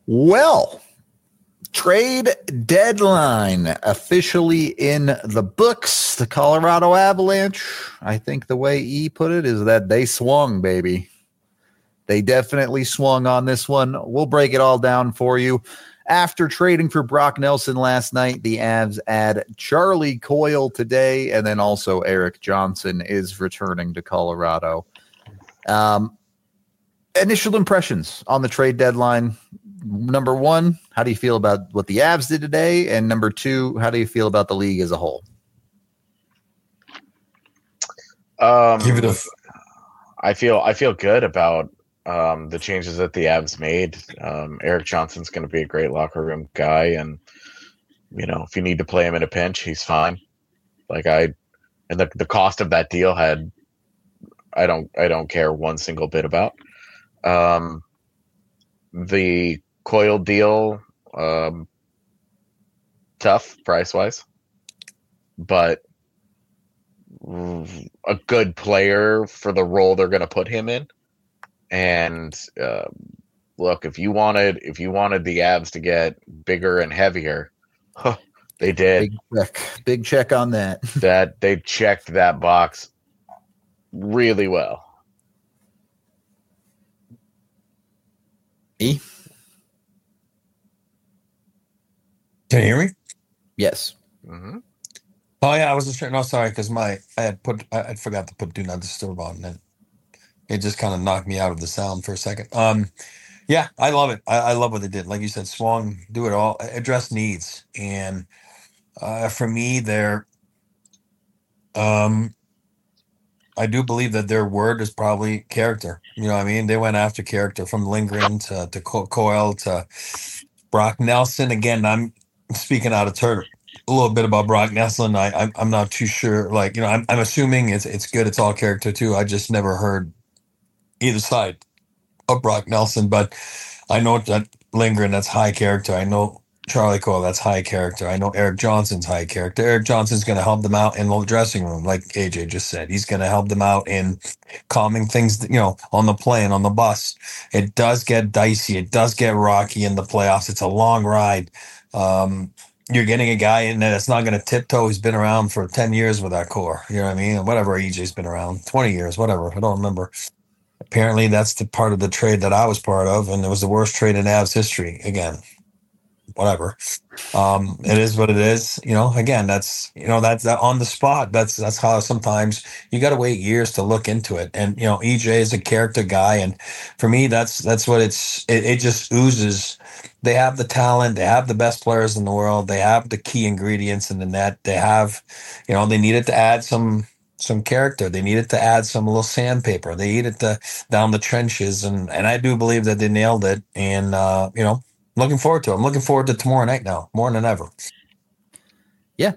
Well, trade deadline officially in the books. The Colorado Avalanche, I think the way E put it is that they swung, baby. They definitely swung on this one. We'll break it all down for you. After trading for Brock Nelson last night, the Avs add Charlie Coyle today, and then also Erik Johnson is returning to Colorado. Initial impressions on the trade deadline. Number one, how do you feel about what the Avs did today? And number two, how do you feel about the league as a whole? I feel good about the changes that the Avs made. Erik Johnson's going to be a great locker room guy, and if you need to play him in a pinch, he's fine. And the cost of that deal I don't care one single bit about. The Coyle deal, tough price wise, but a good player for the role they're going to put him in. And look, if you wanted the Avs to get bigger and heavier, they did. Big check on that. That they checked that box really well. E? Can you hear me? Yes. Mm-hmm. Oh yeah, I was just trying. No, sorry, because I forgot to put Do Not Disturb on, and it just kind of knocked me out of the sound for a second. Yeah, I love it. I love what they did. Like you said, swung, do it all, address needs, and for me, I do believe that their word is probably character. You know what I mean? They went after character from Lindgren to Coyle to Brock Nelson. Again, I'm speaking out of turn a little bit about Brock Nelson. I'm not too sure. I'm assuming it's good. It's all character too. I just never heard either side of Brock Nelson, but I know that Lindgren, that's high character. I know Charlie Coyle, that's high character. I know Erik Johnson's high character. Erik Johnson's going to help them out in the dressing room, like AJ just said. He's going to help them out in calming things, on the plane, on the bus. It does get dicey. It does get rocky in the playoffs. It's a long ride. You're getting a guy in there that's not going to tiptoe. He's been around for 10 years with that core. You know what I mean? Whatever, EJ's been around, 20 years, whatever. I don't remember. Apparently, that's the part of the trade that I was part of, and it was the worst trade in Avs history. Again, whatever. It is what it is. Again, that's on the spot. That's how sometimes you got to wait years to look into it. And EJ is a character guy, and for me, that's what it just oozes. They have the talent. They have the best players in the world. They have the key ingredients in the net. They have, they needed to add some character. They needed to add some little sandpaper. They needed to down the trenches, and I do believe that they nailed it. And looking forward to it. I'm looking forward to tomorrow night now more than ever. Yeah,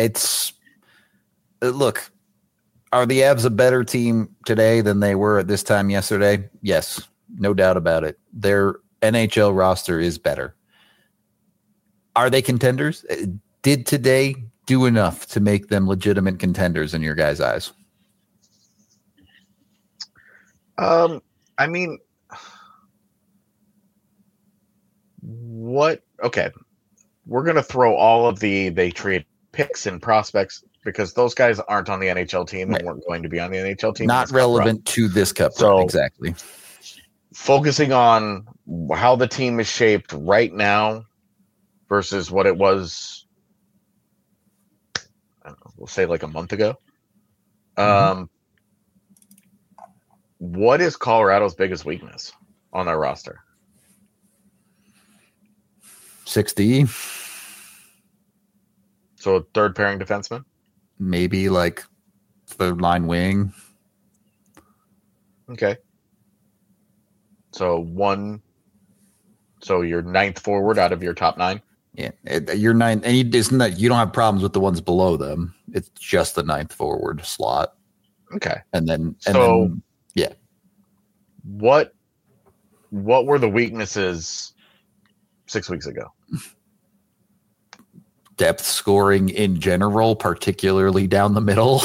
look. Are the Avs a better team today than they were at this time yesterday? Yes, no doubt about it. Their NHL roster is better. Are they contenders? Did today do enough to make them legitimate contenders in your guys' eyes? I mean, what? Okay, we're gonna throw all of they trade picks and prospects because those guys aren't on the NHL team and weren't going to be on the NHL team. Not relevant to this cup run, exactly. Focusing on how the team is shaped right now versus what it was, I don't know, we'll say like a month ago. What is Colorado's biggest weakness on their roster? 6D. So a third pairing defenseman? Maybe like third line wing. Okay. So your ninth forward out of your top nine? Yeah, your ninth, and you don't have problems with the ones below them. It's just the ninth forward slot. Okay. And then yeah. What were the weaknesses 6 weeks ago? Depth scoring in general, particularly down the middle.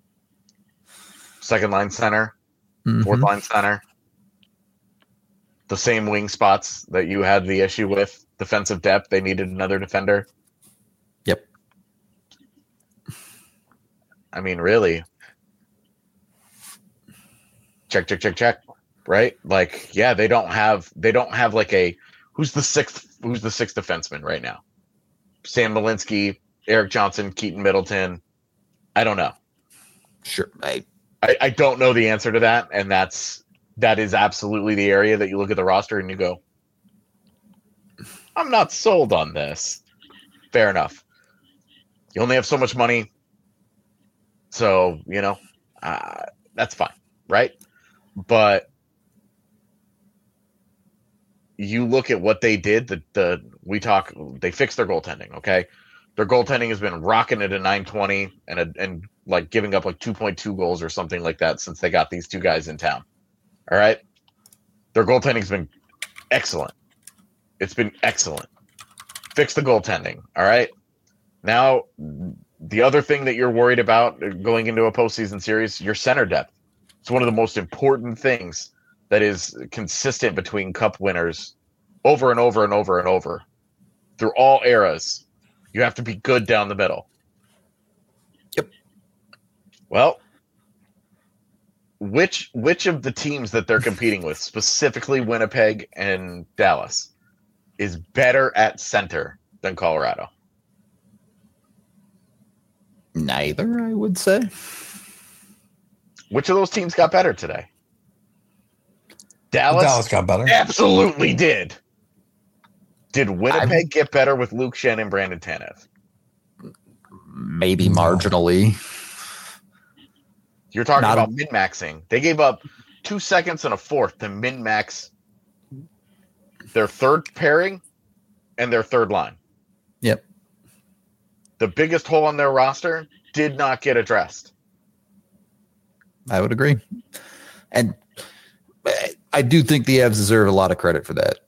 Second line center, fourth line center. the same wing spots that you had the issue with defensive depth. They needed another defender. Yep. I mean, really. Check. Right? Like, yeah, they don't have like a who's the sixth defenseman right now? Sam Malinsky, Eric Johnson, Keaton Middleton. I don't know. Sure. I don't know the answer to that, and that is absolutely the area that you look at the roster and you go, I'm not sold on this. Fair enough. You only have so much money, so that's fine, right? But you look at what they did. They fixed their goaltending. Okay, their goaltending has been rocking at a 920 and like giving up like 2.2 goals or something like that since they got these two guys in town. All right, their goaltending's been excellent. It's been excellent. Fix the goaltending. All right. Now, the other thing that you're worried about going into a postseason series, your center depth. It's one of the most important things that is consistent between cup winners over and over and over and over through all eras. You have to be good down the middle. Yep. Well, which of the teams that they're competing with, specifically Winnipeg and Dallas, is better at center than Colorado? Neither, I would say. Which of those teams got better today? Dallas got better. Absolutely did. Did Winnipeg get better with Luke Shen and Brandon Tanev? Maybe marginally. You're talking about min-maxing. They gave up 2 seconds and a fourth to min-max their third pairing and their third line. Yep. The biggest hole on their roster did not get addressed. I would agree. And I do think the Avs deserve a lot of credit for that.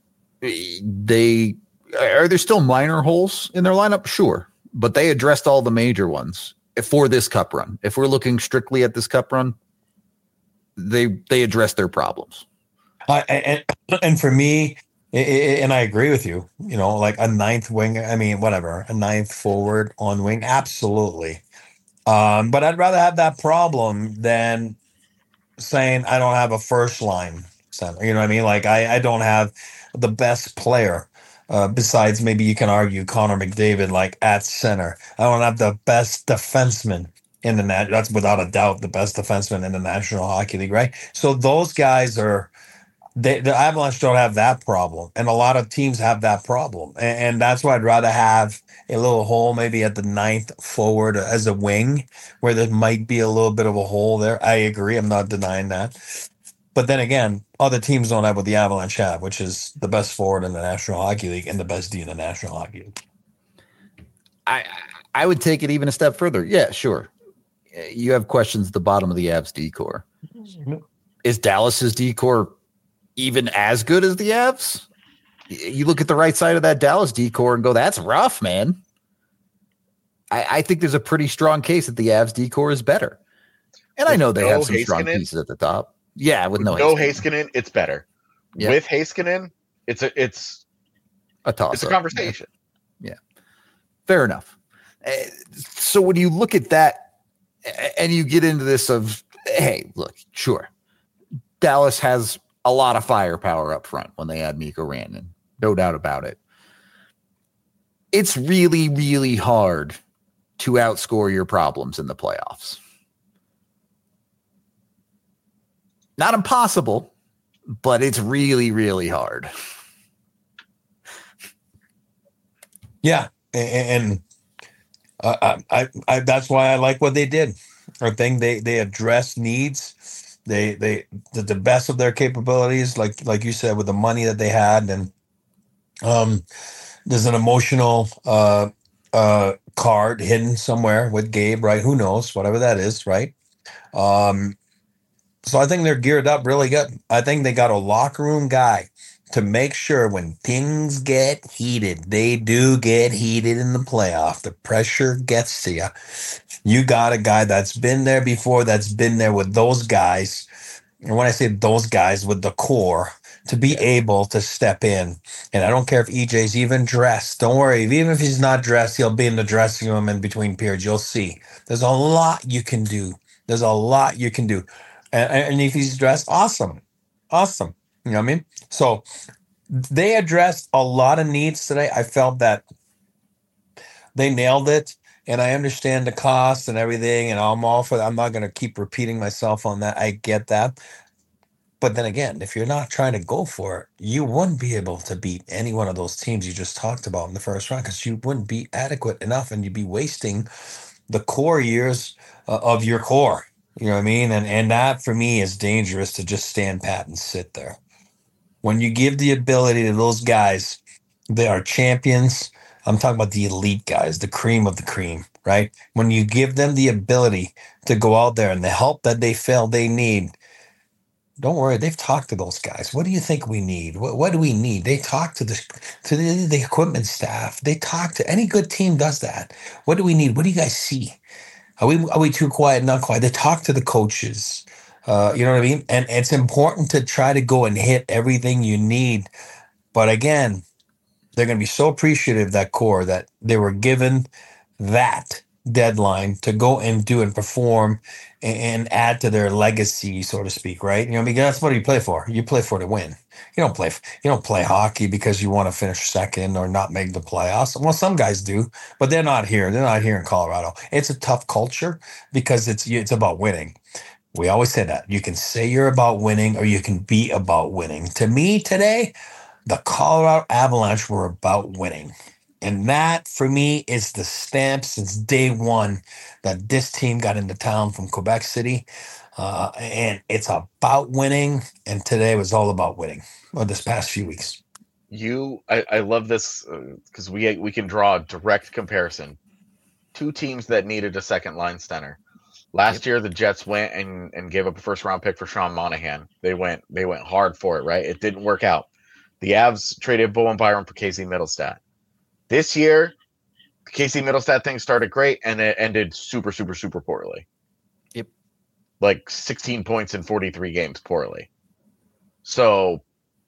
Are there still minor holes in their lineup? Sure. But they addressed all the major ones for this cup run. If we're looking strictly at this cup run, they addressed their problems. And for me, and I agree with you, like a ninth wing, a ninth forward on wing. Absolutely. But I'd rather have that problem than saying I don't have a first line center. You know what I mean? Like I don't have the best player besides maybe you can argue Connor McDavid like at center. I don't have the best defenseman in the net. That's without a doubt the best defenseman in the National Hockey League, right? So those guys are the Avalanche don't have that problem, and a lot of teams have that problem, and that's why I'd rather have a little hole maybe at the ninth forward as a wing where there might be a little bit of a hole there. I agree. I'm not denying that. But then again, other teams don't have what the Avalanche have, which is the best forward in the National Hockey League and the best D in the National Hockey League. I would take it even a step further. Yeah, sure. You have questions at the bottom of the Avs D-core. Is Dallas's D-core even as good as the Avs? You look at the right side of that Dallas D-core and go, that's rough, man. I think there's a pretty strong case that the Avs D-core is better. And I know they have some strong pieces at the top. Yeah, with no Heiskanen, it's better. Yeah. With Heiskanen, it's a toss. It's a conversation. Yeah. Fair enough. So when you look at that and you get into this of, hey, look, sure, Dallas has a lot of firepower up front when they add Mikko Rantanen. No doubt about it. It's really, really hard to outscore your problems in the playoffs. Not impossible, but it's really, really hard. Yeah, and I that's why I like what they did. I think they addressed needs. They did the best of their capabilities, like you said, with the money that they had, and there's an emotional card hidden somewhere with Gabe, right? Who knows? Whatever that is, right? So I think they're geared up really good. I think they got a locker room guy to make sure when things get heated, they do get heated in the playoff. The pressure gets to you. You got a guy that's been there before, that's been there with those guys. And when I say those guys, with the core, to be able to step in. And I don't care if EJ's even dressed. Don't worry. Even if he's not dressed, he'll be in the dressing room in between periods. You'll see. There's a lot you can do. There's a lot you can do. And if he's dressed, awesome. Awesome. You know what I mean? So they addressed a lot of needs today. I felt that they nailed it. And I understand the cost and everything. And I'm all for that. I'm not going to keep repeating myself on that. I get that. But then again, if you're not trying to go for it, you wouldn't be able to beat any one of those teams you just talked about in the first round because you wouldn't be adequate enough and you'd be wasting the core years of your core. You know what I mean? And that for me is dangerous to just stand pat and sit there. When you give the ability to those guys, they are champions. I'm talking about the elite guys, the cream of the cream, right? When you give them the ability to go out there and the help that they feel they need, don't worry, they've talked to those guys. What do you think we need? What do we need? They talk to the equipment staff. They talk to any good team does that. What do we need? What do you guys see? Are we too quiet? Not quiet. They talk to the coaches. You know what I mean? And it's important to try to go and hit everything you need. But again, they're going to be so appreciative, that core, that they were given that deadline to go and do and perform and add to their legacy, so to speak, right? You know, because that's what you play for. You play for to win. You don't play hockey because you want to finish second or not make the playoffs. Well, some guys do, but they're not here. They're not here in Colorado. It's a tough culture because it's about winning. We always say that. You can say you're about winning or you can be about winning. To me today, the Colorado Avalanche were about winning. And that, for me, is the stamp since day one that this team got into town from Quebec City. And it's about winning. And today was all about winning, or this past few weeks. I love this because we can draw a direct comparison. Two teams that needed a second line center. Last year, the Jets went and gave up a first-round pick for Sean Monahan. They went hard for it, right? It didn't work out. The Avs traded Bowen Byram for Casey Middlestat. This year, the Casey Middlestat thing started great, and it ended super, super, super poorly. Yep. Like 16 points in 43 games poorly. So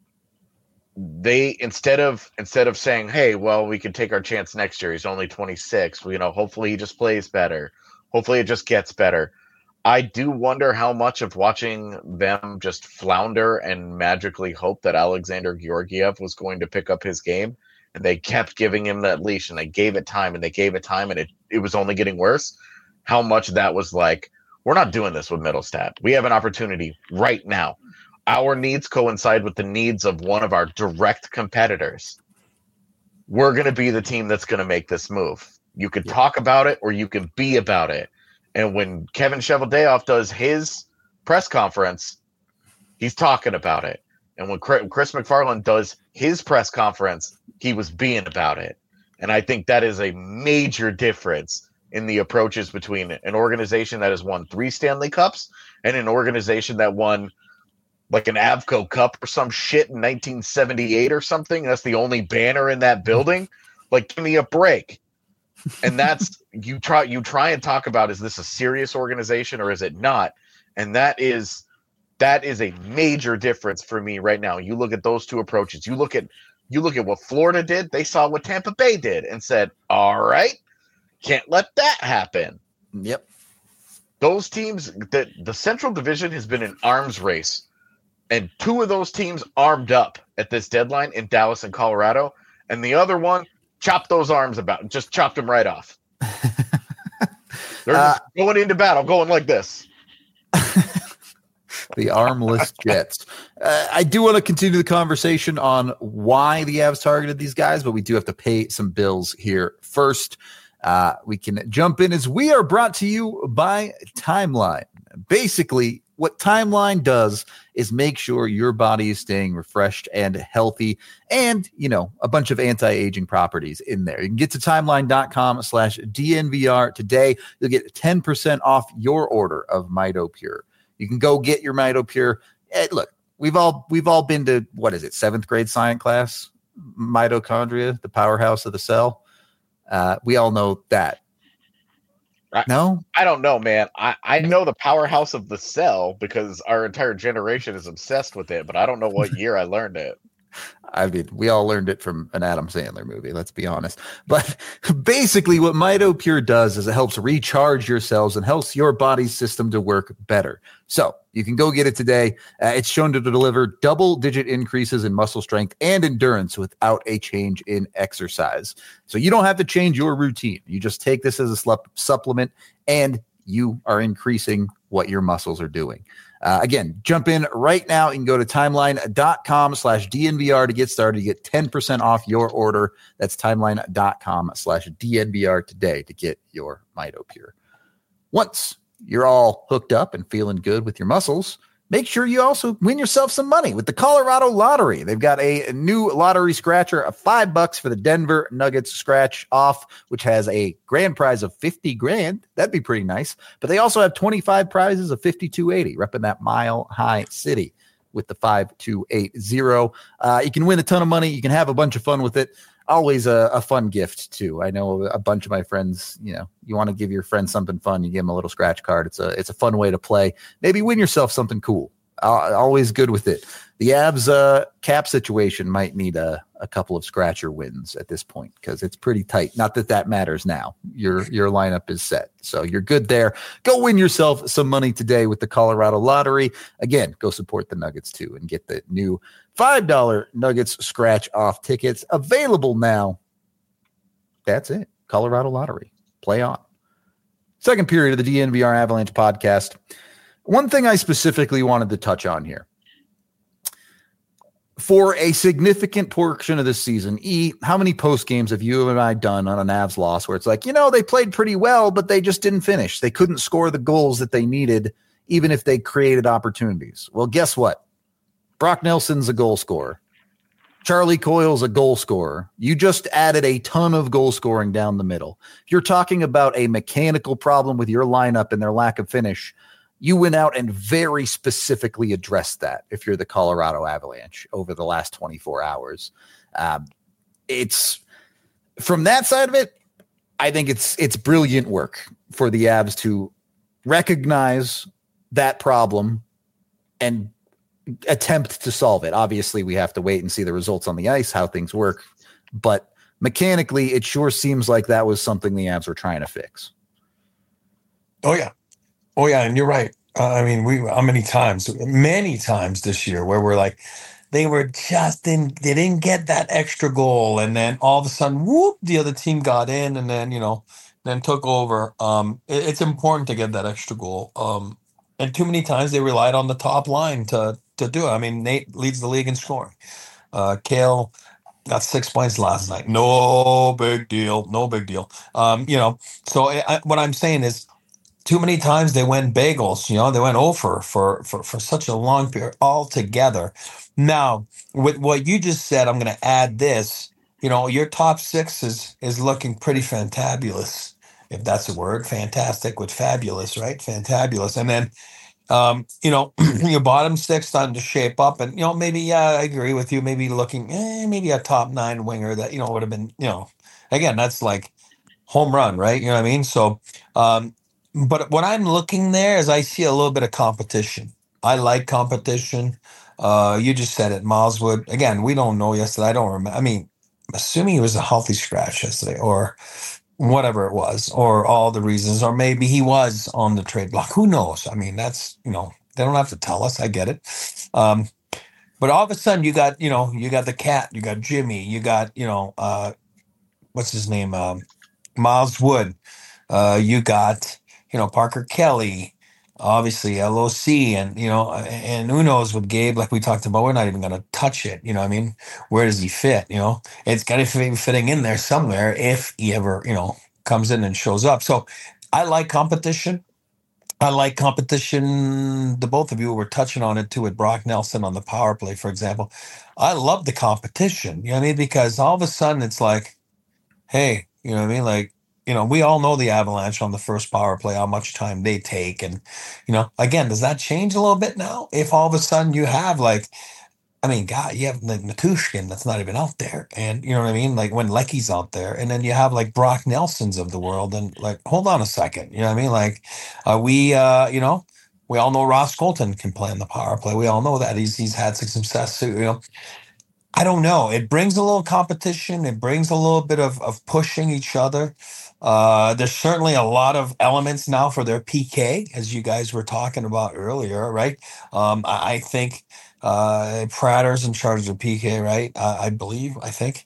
they instead of saying, hey, well, we can take our chance next year. He's only 26. Hopefully he just plays better. Hopefully it just gets better. I do wonder how much of watching them just flounder and magically hope that Alexander Georgiev was going to pick up his game. And they kept giving him that leash, and they gave it time, and it was only getting worse. How much that was like, we're not doing this with Middlestat. We have an opportunity right now. Our needs coincide with the needs of one of our direct competitors. We're going to be the team that's going to make this move. You can talk about it, or you can be about it. And when Kevin Cheveldayoff does his press conference, he's talking about it. And when Chris McFarland does his press conference, he was being about it. And I think that is a major difference in the approaches between an organization that has won 3 Stanley Cups and an organization that won like an Avco Cup or some shit in 1978 or something. That's the only banner in that building. Like, give me a break. And that's you try and talk about, is this a serious organization or is it not? And that is a major difference for me right now. You look at those two approaches. You look at what Florida did. They saw what Tampa Bay did and said, all right, can't let that happen. Yep. Those teams, the Central Division has been an arms race. And 2 of those teams armed up at this deadline in Dallas and Colorado. And the other one chopped those arms just chopped them right off. They're just going into battle, going like this. The armless Jets. I do want to continue the conversation on why the Avs targeted these guys, but we do have to pay some bills here first. We can jump in as we are brought to you by Timeline. Basically, what Timeline does is make sure your body is staying refreshed and healthy and, a bunch of anti-aging properties in there. You can get to timeline.com/DNVR today. You'll get 10% off your order of MitoPure. You can go get your MitoPure. Hey, look, we've all been to, 7th grade science class? Mitochondria, the powerhouse of the cell. We all know that. No? I don't know, man. I know the powerhouse of the cell because our entire generation is obsessed with it, but I don't know what year I learned it. I mean, we all learned it from an Adam Sandler movie, let's be honest. But basically, what MitoPure does is it helps recharge your cells and helps your body's system to work better. So you can go get it today. It's shown to deliver double-digit increases in muscle strength and endurance without a change in exercise. So you don't have to change your routine. You just take this as a supplement, and you are increasing what your muscles are doing. Again, jump in right now. You can go to timeline.com/DNVR to get started. You get 10% off your order. That's timeline.com/DNVR today to get your MitoPure. Once you're all hooked up and feeling good with your muscles, make sure you also win yourself some money with the Colorado Lottery. They've got a new lottery scratcher of $5 for the Denver Nuggets scratch off, which has a grand prize of $50,000. That'd be pretty nice. But they also have 25 prizes of $5,280, repping that Mile High City with the 5280. You can win a ton of money. You can have a bunch of fun with it. Always a fun gift too. I know a bunch of my friends, you want to give your friend something fun, you give them a little scratch card. It's a fun way to play. Maybe win yourself something cool. Always good with it. The Avs cap situation might need a couple of scratcher wins at this point because it's pretty tight. Not that matters now. Your lineup is set, so you're good there. Go win yourself some money today with the Colorado Lottery. Again, go support the Nuggets too and get the new $5 Nuggets scratch off tickets available now. That's it. Colorado Lottery. Play on. Second period of the DNVR Avalanche podcast. One thing I specifically wanted to touch on here. For a significant portion of this season, how many post games have you and I done on an Avs loss where it's like, they played pretty well, but they just didn't finish. They couldn't score the goals that they needed, even if they created opportunities. Well, guess what? Brock Nelson's a goal scorer. Charlie Coyle's a goal scorer. You just added a ton of goal scoring down the middle. If you're talking about a mechanical problem with your lineup and their lack of finish, you went out and very specifically addressed that if you're the Colorado Avalanche over the last 24 hours. It's from that side of it, I think it's brilliant work for the Avs to recognize that problem and attempt to solve it. Obviously, we have to wait and see the results on the ice, how things work. But mechanically, it sure seems like that was something the Avs were trying to fix. Oh, yeah. And you're right. Many times this year where we're like, they didn't get that extra goal. And then all of a sudden, whoop, the other team got in and then, then took over. It's important to get that extra goal. And too many times they relied on the top line to do it. Nate leads the league in scoring. Cale got 6 points last night. No big deal. So what I'm saying is, too many times they went bagels, they went over for such a long period altogether. Now, with what you just said, I'm going to add this, your top six is looking pretty fantabulous, if that's a word, fantastic with fabulous, right? Fantabulous. And then, your bottom six starting to shape up and, maybe, I agree with you, maybe looking, maybe a top nine winger that, would have been, again, that's like home run, right? You know what I mean? So, but what I'm looking there is I see a little bit of competition. I like competition. You just said it, Miles Wood. Again, we don't know yesterday. I don't remember. Assuming he was a healthy scratch yesterday or whatever it was, or all the reasons, or maybe he was on the trade block. Who knows? That's, they don't have to tell us. I get it. But all of a sudden you got the cat, you got Jimmy, you got, what's his name? Miles Wood. You got, Parker Kelly, obviously LOC, and and who knows with Gabe, like we talked about, we're not even going to touch it. Where does he fit? It's got to be fitting in there somewhere if he ever, comes in and shows up. So I like competition. The both of you were touching on it too with Brock Nelson on the power play, for example. I love the competition, because all of a sudden it's like, hey, like, we all know the Avalanche on the first power play, how much time they take. And, again, does that change a little bit now? If all of a sudden you have like I mean, God, you have like Matushkin that's not even out there. And you know what I mean? Like when Lecky's out there. And then you have like Brock Nelsons of the world. And like, hold on a second. You know what I mean? Like, we all know Ross Colton can play in the power play. We all know that. He's had some success too, I don't know. It brings a little competition. It brings a little bit of pushing each other. There's certainly a lot of elements now for their PK, as you guys were talking about earlier, right? I think Pratter's in charge of PK, right? I believe, I think.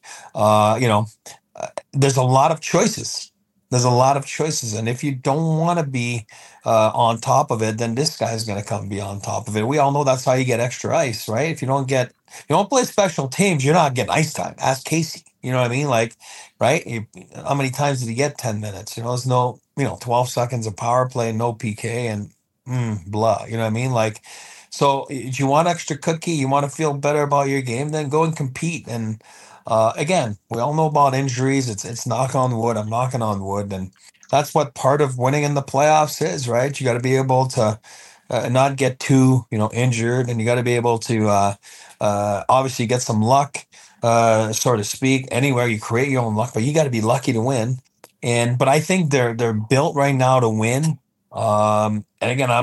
There's a lot of choices. There's a lot of choices. And if you don't want to be on top of it, then this guy's going to come be on top of it. We all know that's how you get extra ice, right? If you don't play special teams, you're not getting ice time. Ask Casey. You know what I mean? Like, right? How many times did he get 10 minutes? There's no, 12 seconds of power play, no PK, and blah. You know what I mean? Like, so if you want extra cookie, you want to feel better about your game, then go and compete. And again, we all know about injuries. It's knock on wood. I'm knocking on wood, and that's what part of winning in the playoffs is, right? You got to be able to not get too injured, and you got to be able to obviously get some luck, so to speak. Anywhere you create your own luck, but you got to be lucky to win. But I think they're built right now to win. And again,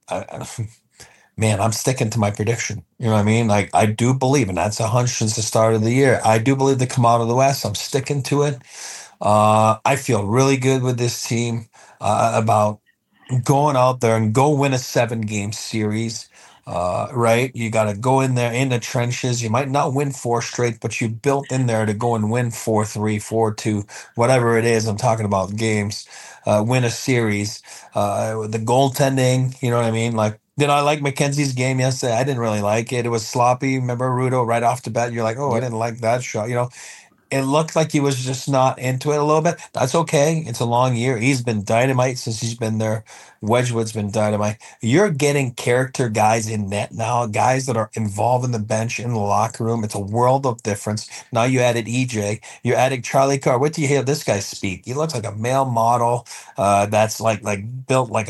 man, I'm sticking to my prediction. You know what I mean? Like, I do believe, and that's a hunch since the start of the year. I do believe they come out of the West. I'm sticking to it. I feel really good with this team about going out there and go win a 7-game series. Right? You got to go in there in the trenches. You might not win 4 straight, but you built in there to go and win 4-3, 4-2, whatever it is. I'm talking about games. Win a series. The goaltending, you know what I mean? Like, did I like McKenzie's game yesterday? I didn't really like it. It was sloppy. Remember Rudo right off the bat? You're like, oh, I didn't like that shot. It looked like he was just not into it a little bit. That's okay. It's a long year. He's been dynamite since he's been there. Wedgwood's been dynamite. You're getting character guys in net now, guys that are involved in the bench, in the locker room. It's a world of difference. Now you added EJ. You're adding Charlie Carr. What do you hear this guy speak? He looks like a male model that's like built like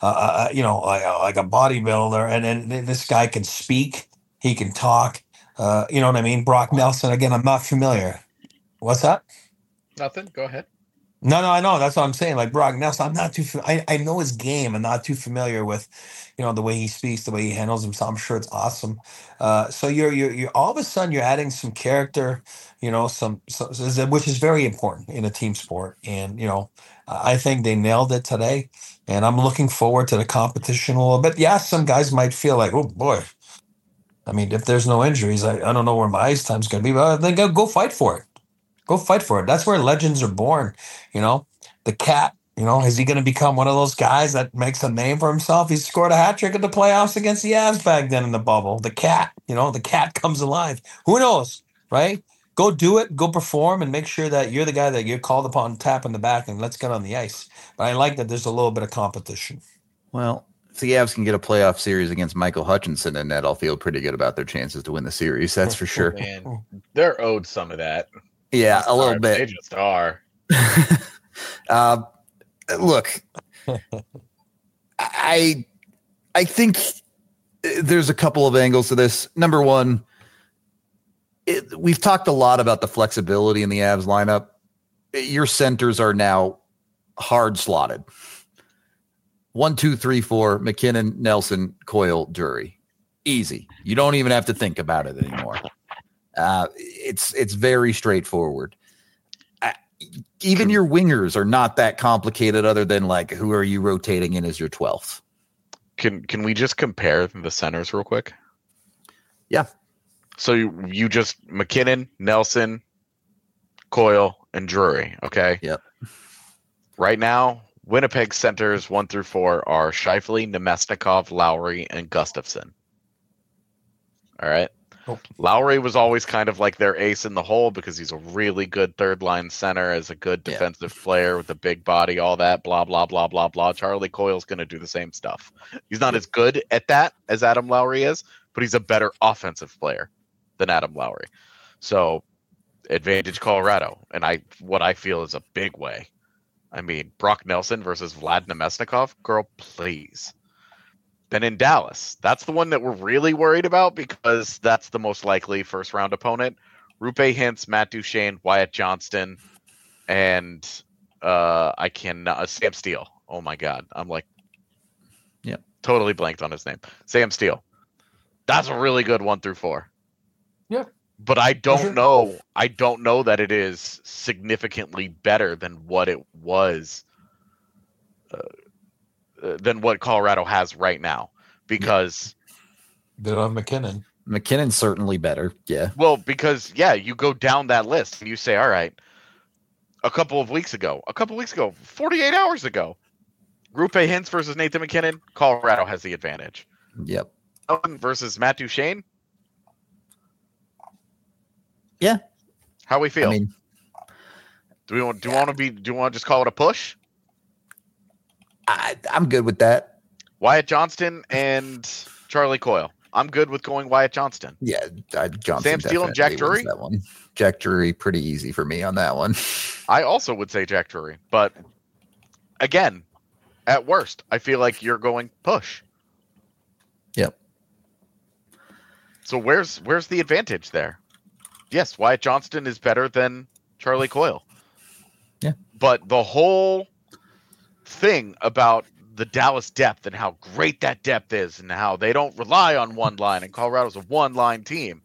like a bodybuilder. And then this guy can speak. He can talk. You know what I mean? Brock Nelson. Again, I'm not familiar. What's that? Nothing. Go ahead. No, I know. That's what I'm saying. Like Brock Nelson, I'm not too. I know his game. I'm not too familiar with, the way he speaks, the way he handles himself. I'm sure it's awesome. So you're all of a sudden you're adding some character, which is very important in a team sport. And I think they nailed it today. And I'm looking forward to the competition a little bit. Yeah, some guys might feel like, oh boy. I mean, if there's no injuries, I don't know where my ice time's going to be, but then go fight for it. Go fight for it. That's where legends are born. The Cat, is he going to become one of those guys that makes a name for himself? He scored a hat trick in the playoffs against the Avs back then in the bubble. The Cat, the Cat comes alive. Who knows, right? Go do it, go perform, and make sure that you're the guy that you're called upon, tap in the back, and let's get on the ice. But I like that there's a little bit of competition. Well, if the Avs can get a playoff series against Michael Hutchinson in net, I'll feel pretty good about their chances to win the series. That's for sure. Man, they're owed some of that. Yeah, a little bit. They just are. Look, I think there's a couple of angles to this. Number one, we've talked a lot about the flexibility in the Avs lineup. Your centers are now hard slotted. 1, 2, 3, 4, McKinnon, Nelson, Coyle, Drury. Easy. You don't even have to think about it anymore. It's very straightforward. Even your wingers are not that complicated other than like, who are you rotating in as your 12th? Can we just compare the centers real quick? Yeah. So you just McKinnon, Nelson, Coyle, and Drury. Okay. Yep. Right now, Winnipeg centers 1 through 4 are Scheifele, Nemesnikov, Lowry, and Gustafsson. All right. Oh. Lowry was always kind of like their ace in the hole because he's a really good third line center, as a good defensive player with a big body, all that, blah, blah, blah, blah, blah. Charlie Coyle's going to do the same stuff. He's not as good at that as Adam Lowry is, but he's a better offensive player than Adam Lowry. So advantage Colorado. And what I feel is a big way. I mean, Brock Nelson versus Vlad Nemesnikov, girl, please. than in Dallas. That's the one that we're really worried about because that's the most likely first round opponent. Rupe Hintz, Matt Duchene, Wyatt Johnston, and I cannot Sam Steele. Oh my God, I'm like, totally blanked on his name. Sam Steele. That's a really good 1 through 4. Yeah, but I don't know. I don't know that it is significantly better than what it was, than what Colorado has right now. Because good on McKinnon. McKinnon's certainly better. Yeah. Well, because you go down that list and you say, all right, a couple of weeks ago, 48 hours ago, Rupe Hintz versus Nathan McKinnon, Colorado has the advantage. Yep. Versus Matt Duchene. Yeah. How we feel? I mean, do we want to just call it a push? I'm good with that. Wyatt Johnston and Charlie Coyle. I'm good with going Wyatt Johnston. Yeah, Johnston. Sam Steele and Jack Drury. That one. Jack Drury, pretty easy for me on that one. I also would say Jack Drury, but again, at worst, I feel like you're going push. Yep. So where's the advantage there? Yes, Wyatt Johnston is better than Charlie Coyle. Yeah. But the whole thing about the Dallas depth and how great that depth is and how they don't rely on one line and Colorado's a one-line team.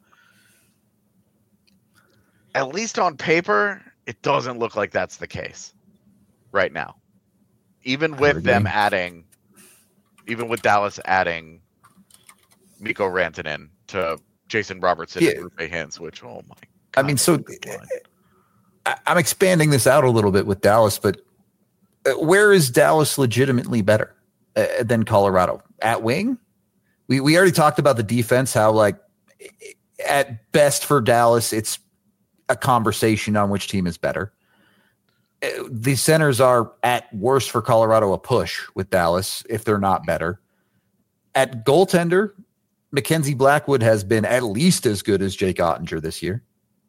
At least on paper, it doesn't look like that's the case right now. Even with them adding, even with Dallas adding Mikko Rantanen to Jason Robertson and Rupe Hintz, which, oh my God. I mean, so I'm expanding this out a little bit with Dallas, but where is Dallas legitimately better than Colorado? At wing? We already talked about the defense, how like at best for Dallas, it's a conversation on which team is better. The centers are at worst for Colorado a push with Dallas if they're not better. At goaltender, Mackenzie Blackwood has been at least as good as Jake Ottinger this year.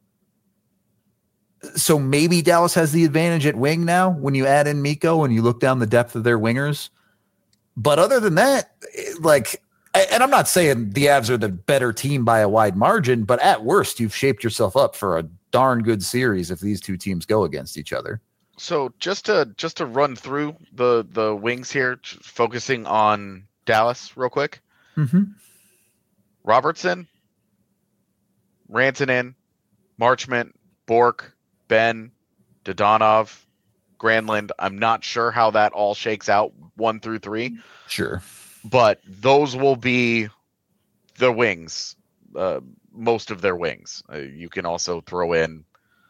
So maybe Dallas has the advantage at wing now when you add in Mikko and you look down the depth of their wingers. But other than that, like, and I'm not saying the Avs are the better team by a wide margin, but at worst, you've shaped yourself up for a darn good series if these two teams go against each other. So just to run through the wings here, focusing on Dallas real quick. Mm-hmm. Robertson, Rantanen, Marchment, Bork, Ben, Dodonov, Granlund. I'm not sure how that all shakes out 1 through 3. Sure. But those will be the wings, most of their wings. You can also throw in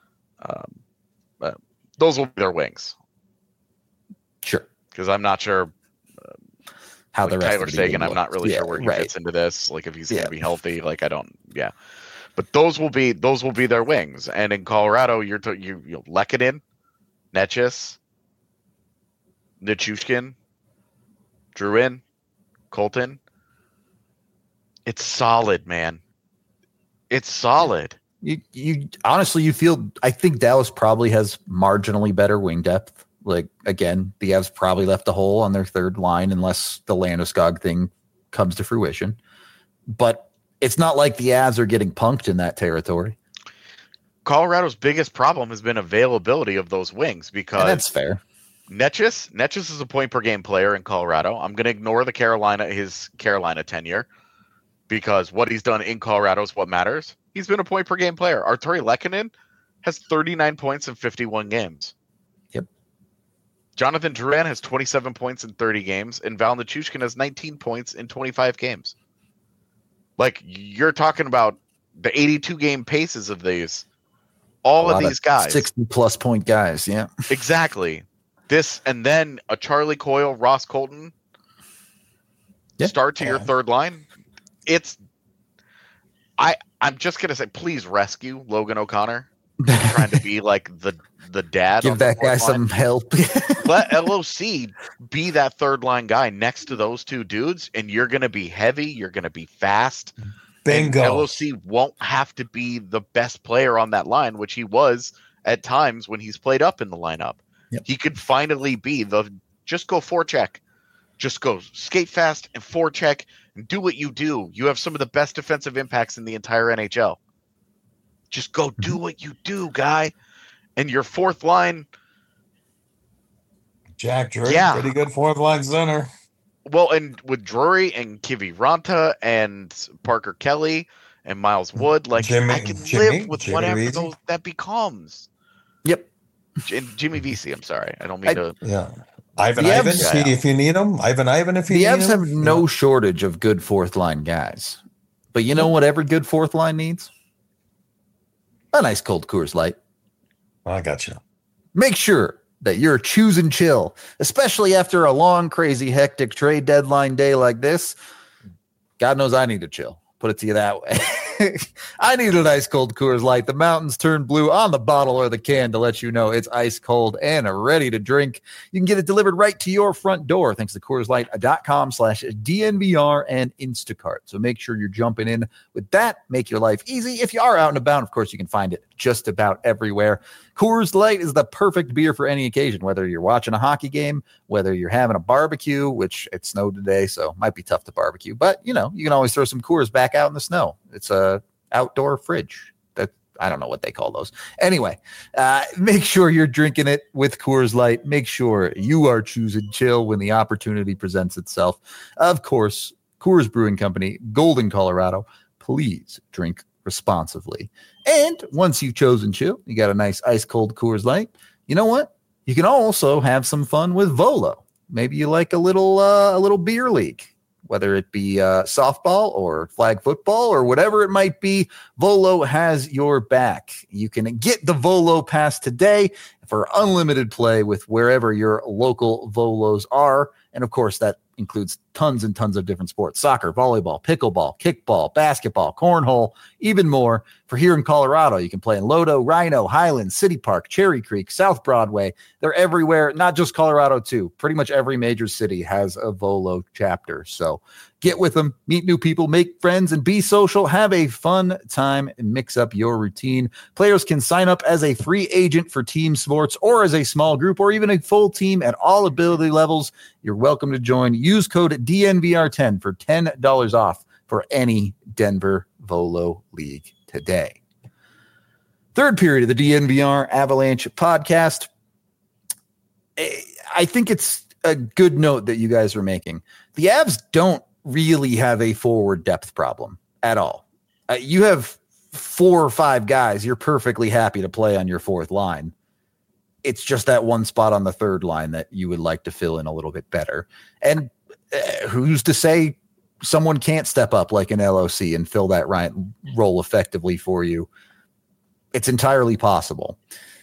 those will be their wings. Sure. Because I'm not sure how the rest Tyler of the Seguin, I'm not really sure where he fits into this. Like if he's going to be healthy, like I don't. Yeah. But those will be their wings. And in Colorado, you're Lehkonen, Necas, Nichushkin, Drouin, Colton. It's solid, man. It's solid. You honestly, you feel, I think Dallas probably has marginally better wing depth. Like, again, the Avs probably left a hole on their third line unless the Landeskog thing comes to fruition. But it's not like the Avs are getting punked in that territory. Colorado's biggest problem has been availability of those wings because that's fair. Necas is a point per game player in Colorado. I'm going to ignore his Carolina tenure because what he's done in Colorado is what matters. He's been a point per game player. Artturi Lehkonen has 39 points in 51 games. Yep. Jonathan Drouin has 27 points in 30 games, and Val Nichushkin has 19 points in 25 games. Like, you're talking about the 82 game paces of these. All of these guys. 60-plus point guys, yeah. Exactly. This, and then a Charlie Coyle, Ross Colton start to your third line. I'm just going to say, please rescue Logan O'Connor. Trying to be like the dad. Give that guy some help. Let LOC be that third line guy next to those two dudes, and you're going to be heavy. You're going to be fast. Bingo. And LOC won't have to be the best player on that line, which he was at times when he's played up in the lineup. Yep. He could finally be just go forecheck. Just go skate fast and forecheck and do what you do. You have some of the best defensive impacts in the entire NHL. Just go do what you do, guy. And your fourth line, Jack Drury, Yeah. pretty good fourth line center. well, and with Drury and Kiviranta and Parker Kelly and Miles Wood, like I can live with whatever Vesey. that becomes. Yep. And Jimmy Vesey, I'm sorry. I don't mean to. Yeah. Ivan The Ivan, Avs- if you need him. Ivan if you The need Avs him. have no shortage of good fourth line guys. But you know what every good fourth line needs? A nice cold Coors Light. I got you. Make sure that you're choosing chill, especially after a long, crazy, hectic trade deadline day like this. God knows I need to chill. Put it to you that way. I need a nice cold Coors Light. The mountains turn blue on the bottle or the can to let you know it's ice cold and ready to drink. You can get it delivered right to your front door thanks to CoorsLight.com/DNVR and Instacart. So make sure you're jumping in with that. Make your life easy. If you are out and about, of course, you can find it just about everywhere. Coors Light is the perfect beer for any occasion, whether you're watching a hockey game, whether you're having a barbecue, which it snowed today, so might be tough to barbecue. But, you know, you can always throw some Coors back out in the snow. It's a outdoor fridge. That I don't know what they call those. Anyway, make sure you're drinking it with Coors Light. Make sure you are choosing chill when the opportunity presents itself. Of course, Coors Brewing Company, Golden, Colorado. Please drink responsibly. And once you've chosen chill, you got a nice ice cold Coors Light. You know what? You can also have some fun with Volo. Maybe you like a little beer league, whether it be softball or flag football or whatever it might be. Volo has your back. You can get the Volo Pass today for unlimited play with wherever your local Volos are. And of course, that includes tons and tons of different sports: soccer, volleyball, pickleball, kickball, basketball, cornhole, even more. For here in Colorado, you can play in Lodo, Rhino, Highland, City Park, Cherry Creek, South Broadway. They're everywhere, not just Colorado too. Pretty much every major city has a Volo chapter. So get with them, meet new people, make friends, and be social. Have a fun time and mix up your routine. Players can sign up as a free agent for team sports or as a small group or even a full team at all ability levels. You're welcome to join. Use code DNVR10 for $10 off for any Denver Volo League today. Third period of the DNVR Avalanche podcast. I think it's a good note that you guys are making. The Avs don't really have a forward depth problem at all. You have 4 or 5 guys you're perfectly happy to play on your fourth line. It's just that one spot on the third line that you would like to fill in a little bit better. And who's to say someone can't step up like an LOC and fill that role effectively for you? It's entirely possible.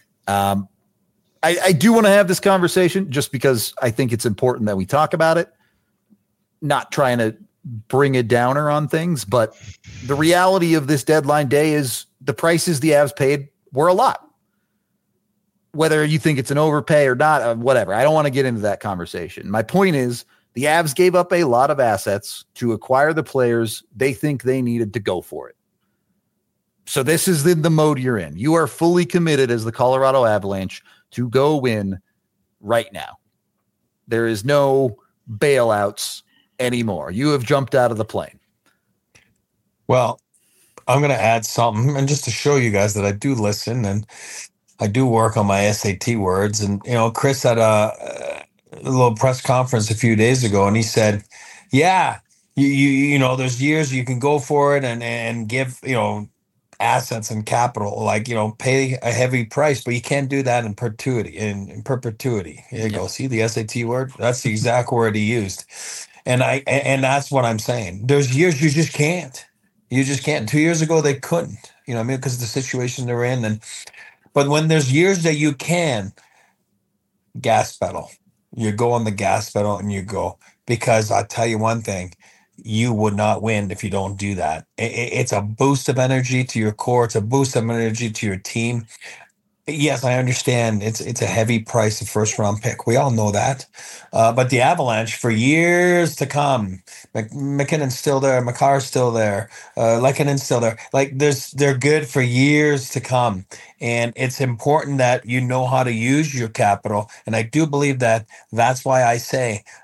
I do want to have this conversation just because I think it's important that we talk about it. Not trying to bring a downer on things, but the reality of this deadline day is the prices the Avs paid were a lot. Whether you think it's an overpay or not, whatever. I don't want to get into that conversation. My point is the Avs gave up a lot of assets to acquire the players they think they needed to go for it. So this is the mode you're in. You are fully committed as the Colorado Avalanche to go win right now. There is no bailouts anymore. You have jumped out of the plane. Well, I'm going to add something, and just to show you guys that I do listen and I do work on my SAT words. And, you know, Chris had a little press conference a few days ago, and he said, yeah, you know, there's years you can go for it and give, you know, assets and capital, like, you know, pay a heavy price, but you can't do that in perpetuity. In perpetuity. Here you go. See the SAT word? That's the exact word he used. And that's what I'm saying. There's years you just can't. You just can't. 2 years ago they couldn't. You know what I mean? Because of the situation they're in. But when there's years that you can, gas pedal. You go on the gas pedal and you go. Because I'll tell you one thing, you would not win if you don't do that. It's a boost of energy to your core. It's a boost of energy to your team. Yes, I understand. It's a heavy price, a first-round pick. We all know that. But the Avalanche, for years to come, McKinnon's still there, Makar's still there, Lekkonen's still there. Like, they're good for years to come. And it's important that you know how to use your capital. And I do believe that that's why I say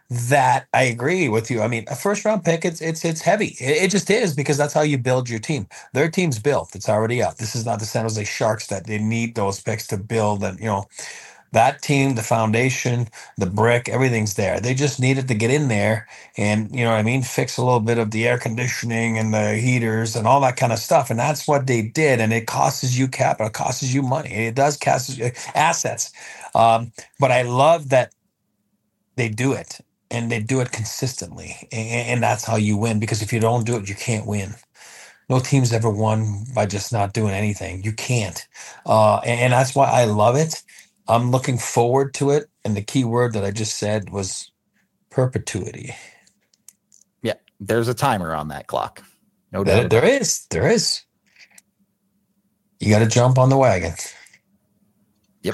that I agree with you. I mean, a first round pick, it's heavy. It just is, because that's how you build your team. Their team's built. It's already up. This is not the San Jose Sharks that they need those picks to build. And that team, the foundation, the brick, everything's there. They just needed to get in there and, fix a little bit of the air conditioning and the heaters and all that kind of stuff. And that's what they did. And it costs you capital, it costs you money. It does cost you assets. But I love that they do it, and they do it consistently. And that's how you win, because if you don't do it, you can't win. No team's ever won by just not doing anything. You can't. And that's why I love it. I'm looking forward to it. And the key word that I just said was perpetuity. Yeah, there's a timer on that clock. No doubt. There is. You got to jump on the wagon. Yep.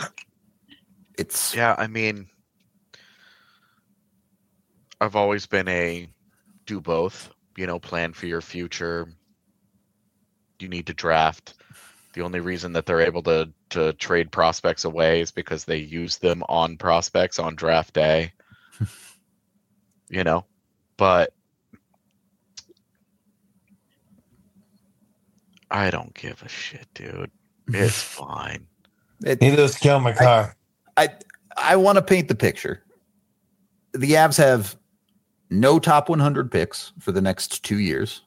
I mean, I've always been a do both, plan for your future. You need to draft. The only reason that they're able to trade prospects away is because they use them on prospects on draft day. But I don't give a shit, dude. It's fine. Neither does Cale Makar. I want to paint the picture. The Avs have no top 100 picks for the next 2 years.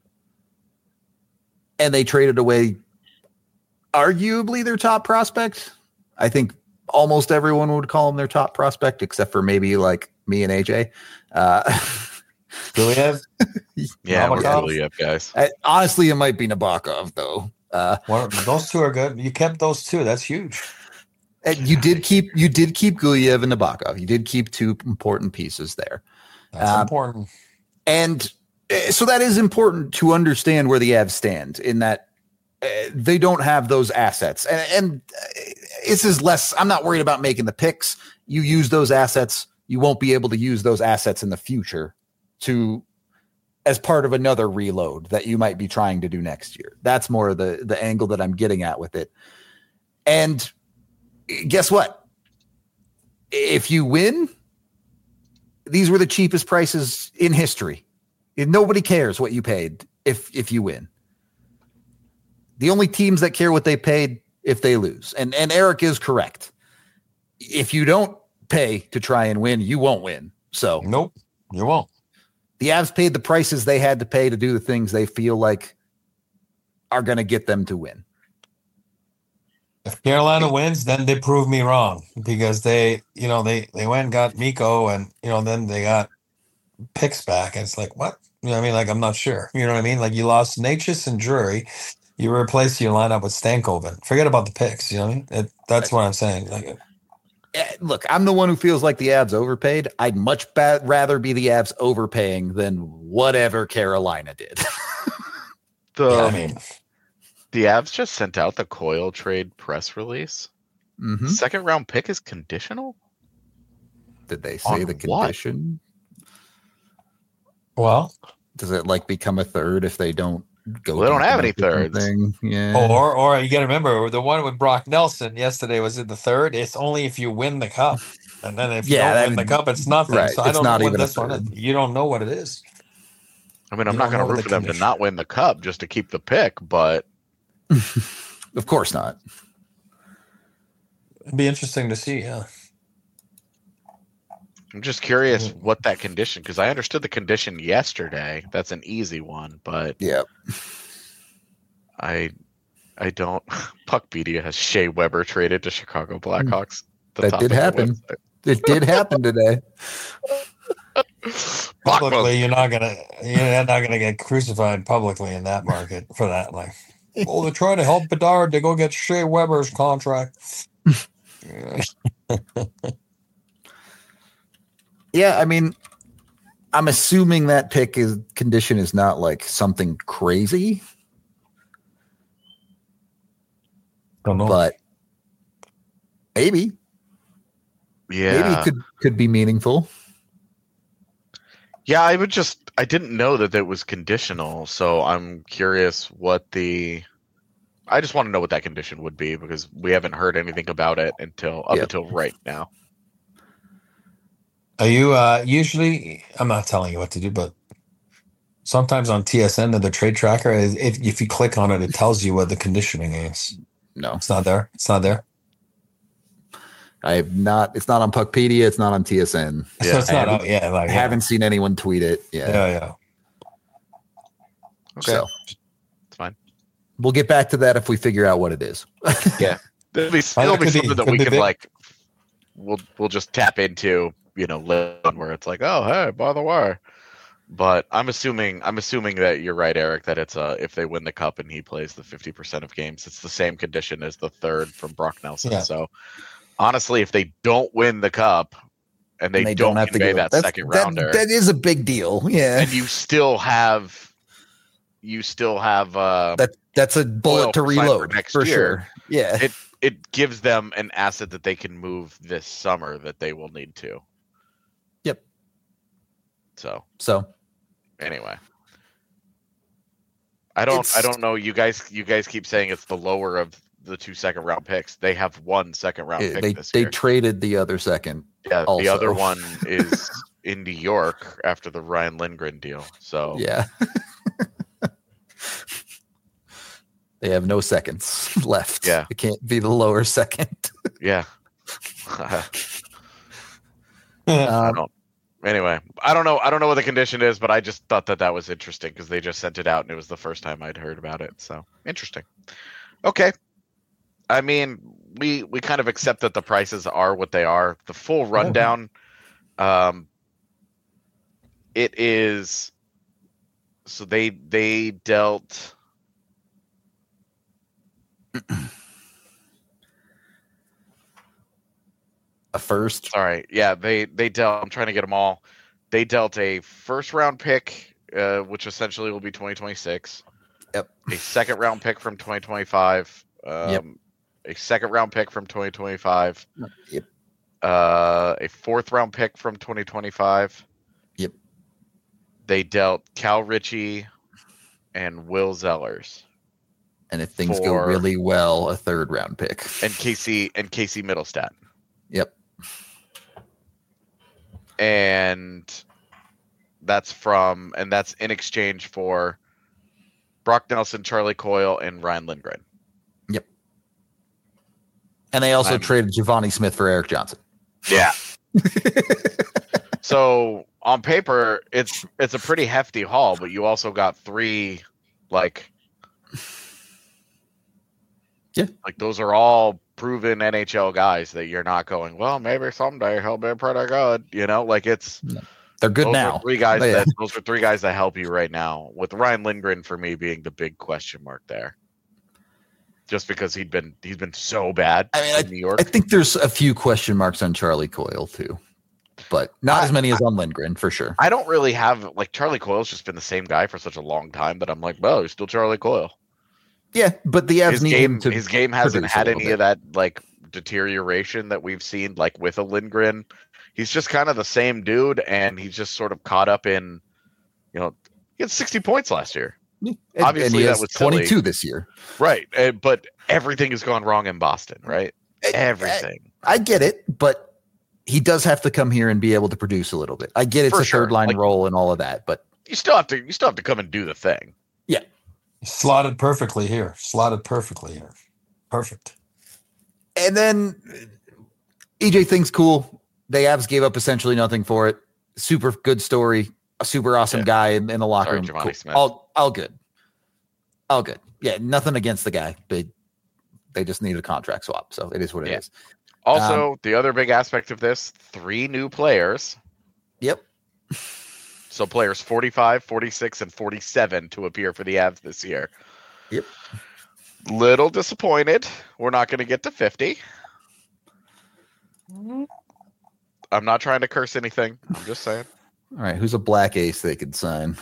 And they traded away arguably their top prospect. I think almost everyone would call him their top prospect, except for maybe like me and AJ. Gulyev? Yeah, we're Gulyev guys. Honestly, it might be Nabokov, though. Those two are good. You kept those two. That's huge. And you did keep Gulyev and Nabokov. You did keep two important pieces there. That's important. And so that is important to understand where the Avs stand, in that they don't have those assets. And this is less, I'm not worried about making the picks. You use those assets. You won't be able to use those assets in the future as part of another reload that you might be trying to do next year. That's more the angle that I'm getting at with it. And guess what? If you win, these were the cheapest prices in history. Nobody cares what you paid if you win. The only teams that care what they paid if they lose. And Eric is correct. If you don't pay to try and win, you won't win. So nope, you won't. The Avs paid the prices they had to pay to do the things they feel like are going to get them to win. If Carolina wins, then they prove me wrong, because they went and got Mikko, and then they got picks back, and it's like, what? I'm not sure. You know what I mean? Like, you lost Natchez and Drury, you replaced your lineup with Stankoven. Forget about the picks. You know what I mean? That's what I'm saying. Look, I'm the one who feels like the Avs overpaid. I'd much rather be the Avs overpaying than whatever Carolina did. The Avs just sent out the Coyle trade press release. Mm-hmm. Second round pick is conditional? Did they say the condition? Well, does it become a third if they don't go? Well, they don't have any thirds. Yeah. Or you got to remember, the one with Brock Nelson yesterday was in the third. It's only if you win the cup, and then if you don't win the cup, it's nothing. Right. So I don't know what this one is. You don't know what it is. I'm not going to root for them to not win the cup just to keep the pick, but of course not. It'd be interesting to see. Yeah. I'm just curious what that condition, because I understood the condition yesterday. That's an easy one, but yeah, I don't. Puckpedia has Shea Weber traded to Chicago Blackhawks. That did happen. It did happen today. Publicly, you're not gonna get crucified publicly in that market for that. They're trying to help Bedard to go get Shea Weber's contract. Yeah, I'm assuming that condition is not something crazy. Don't know. But maybe. Yeah. Maybe it could be meaningful. Yeah, I didn't know that it was conditional, so I'm curious I just want to know what that condition would be, because we haven't heard anything about it until right now. Are you usually? I'm not telling you what to do, but sometimes on TSN, the trade tracker, if you click on it, it tells you what the conditioning is. No, It's not there. It's not there. I have not. It's not on Puckpedia. It's not on TSN. So it's I not haven't- out. Yeah, like I haven't seen anyone tweet it. Yeah. Yeah. Okay, So it's fine. we'll get back to that if we figure out what it is. Yeah, it'll be Could be- something that could we be can big. like. We'll just tap into, later on where it's like, oh hey, by the way. But I'm assuming that you're right, Eric, that it's if they win the cup and he plays the 50% of games, it's the same condition as the third from Brock Nelson. Yeah. So honestly, if they don't win the cup and they, don't have to convey go. that That's- second rounder, That is a big deal. Yeah. and you still have That's a bullet to Coyle signed for reload next for year. sure. Yeah. it gives them an asset that they can move this summer that they will need to. Yep. So anyway, I don't know. You guys keep saying it's the lower of the 2 second round picks. They have 1 second round pick this They year. traded the other second. Yeah, the also. other one is in New York after the Ryan Lindgren deal. So Yeah. They have no seconds left. Yeah. It can't be the lower second. yeah. Um, Anyway, I don't know what the condition is, but I just thought that was interesting because they just sent it out and it was the first time I'd heard about it. So interesting. Okay. I mean, we kind of accept that the prices are what they are. The full rundown, it is. So they dealt. a first. Sorry, yeah, they dealt. I'm trying to get them all. They dealt a first round pick, which essentially will be 2026. Yep. A second round pick from 2025. Yep. A second round pick from 2025. Yep. A fourth round pick from 2025. Yep. They dealt Cal Ritchie and Will Zellers And if things go For- really well, a third round pick. and Casey Middlestat. Yep. And that's in exchange for Brock Nelson, Charlie Coyle, and Ryan Lindgren. And they also I'm- traded Giovanni Smith for Eric Johnson. Yeah. So on paper, it's a pretty hefty haul, but you also got 3, like, Yeah. like those are all proven NHL guys that you're not going, well, maybe someday he'll be pretty good. Like it's They're good those now. Are 3 guys Yeah. those are 3 guys that help you right now. With Ryan Lindgren for me being the big question mark there. Just because he's been so bad in New York. I think there's a few question marks on Charlie Coyle too, but not as many as on Lindgren for sure. I don't really have Charlie Coyle's just been the same guy for such a long time that I'm like, well, he's still Charlie Coyle. Yeah, but the Avs need him to. His game hasn't produce a had little any of that deterioration that we've seen with a Lindgren. He's just kind of the same dude, and he's just sort of caught up in, he had 60 points last year. Obviously, and he that has was silly. 22 this year. Right, but everything has gone wrong in Boston, right? Everything. I get it, but he does have to come here and be able to produce a little bit. I get it's For a sure. third line role and all of that, but You still have to come and do the thing. Slotted perfectly here. Perfect. and then EJ thing's cool. The Avs gave up essentially nothing for it. Super good story. A super awesome Yeah. guy in the locker Sorry, room. Giovanni Cool. Smith. All good. All good. Yeah, nothing against the guy, but they just needed a contract swap, so it is what it Yeah. is. Also, the other big aspect of this, 3 new players. Yep. So players 45, 46, and 47 to appear for the Avs this year. Yep. Little disappointed. We're not going to get to 50. I'm not trying to curse anything. I'm just saying. All right, who's a black ace they could sign?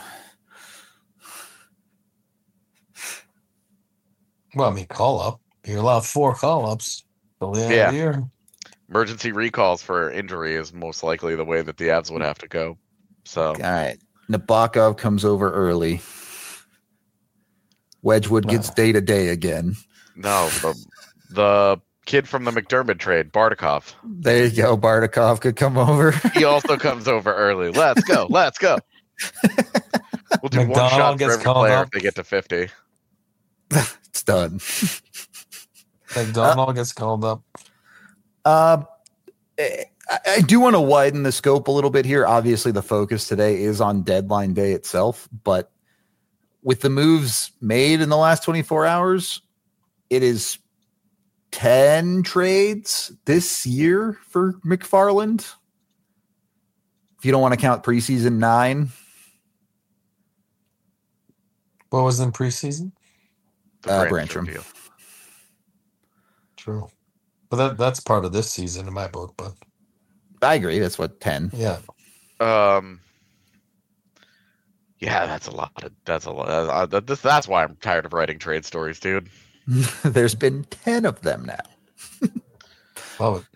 Well, I mean, call up. You're allowed 4 call ups. Till the end of the year. Emergency recalls for injury is most likely the way that the Avs would have to go. So All right. Nabokov comes over early. Wedgwood gets day to day again. no, the Kid from the McDermott trade, Bardakov. There you go. Bardakov could come over. He also comes over early. Let's go. Let's go. We'll do one McDonald shot for gets every called player up. if they get to 50. It's done. McDonald gets called up. I do want to widen the scope a little bit here. Obviously, the focus today is on deadline day itself, but with the moves made in the last 24 hours, it is 10 trades this year for McFarland. If you don't want to count preseason, 9. What was in preseason? The Brancham. deal. True. But that's part of this season in my book, but I agree. That's what 10. yeah. Yeah, that's a lot. That's a lot. That's why I'm tired of writing trade stories, dude. There's been 10 of them now. Well,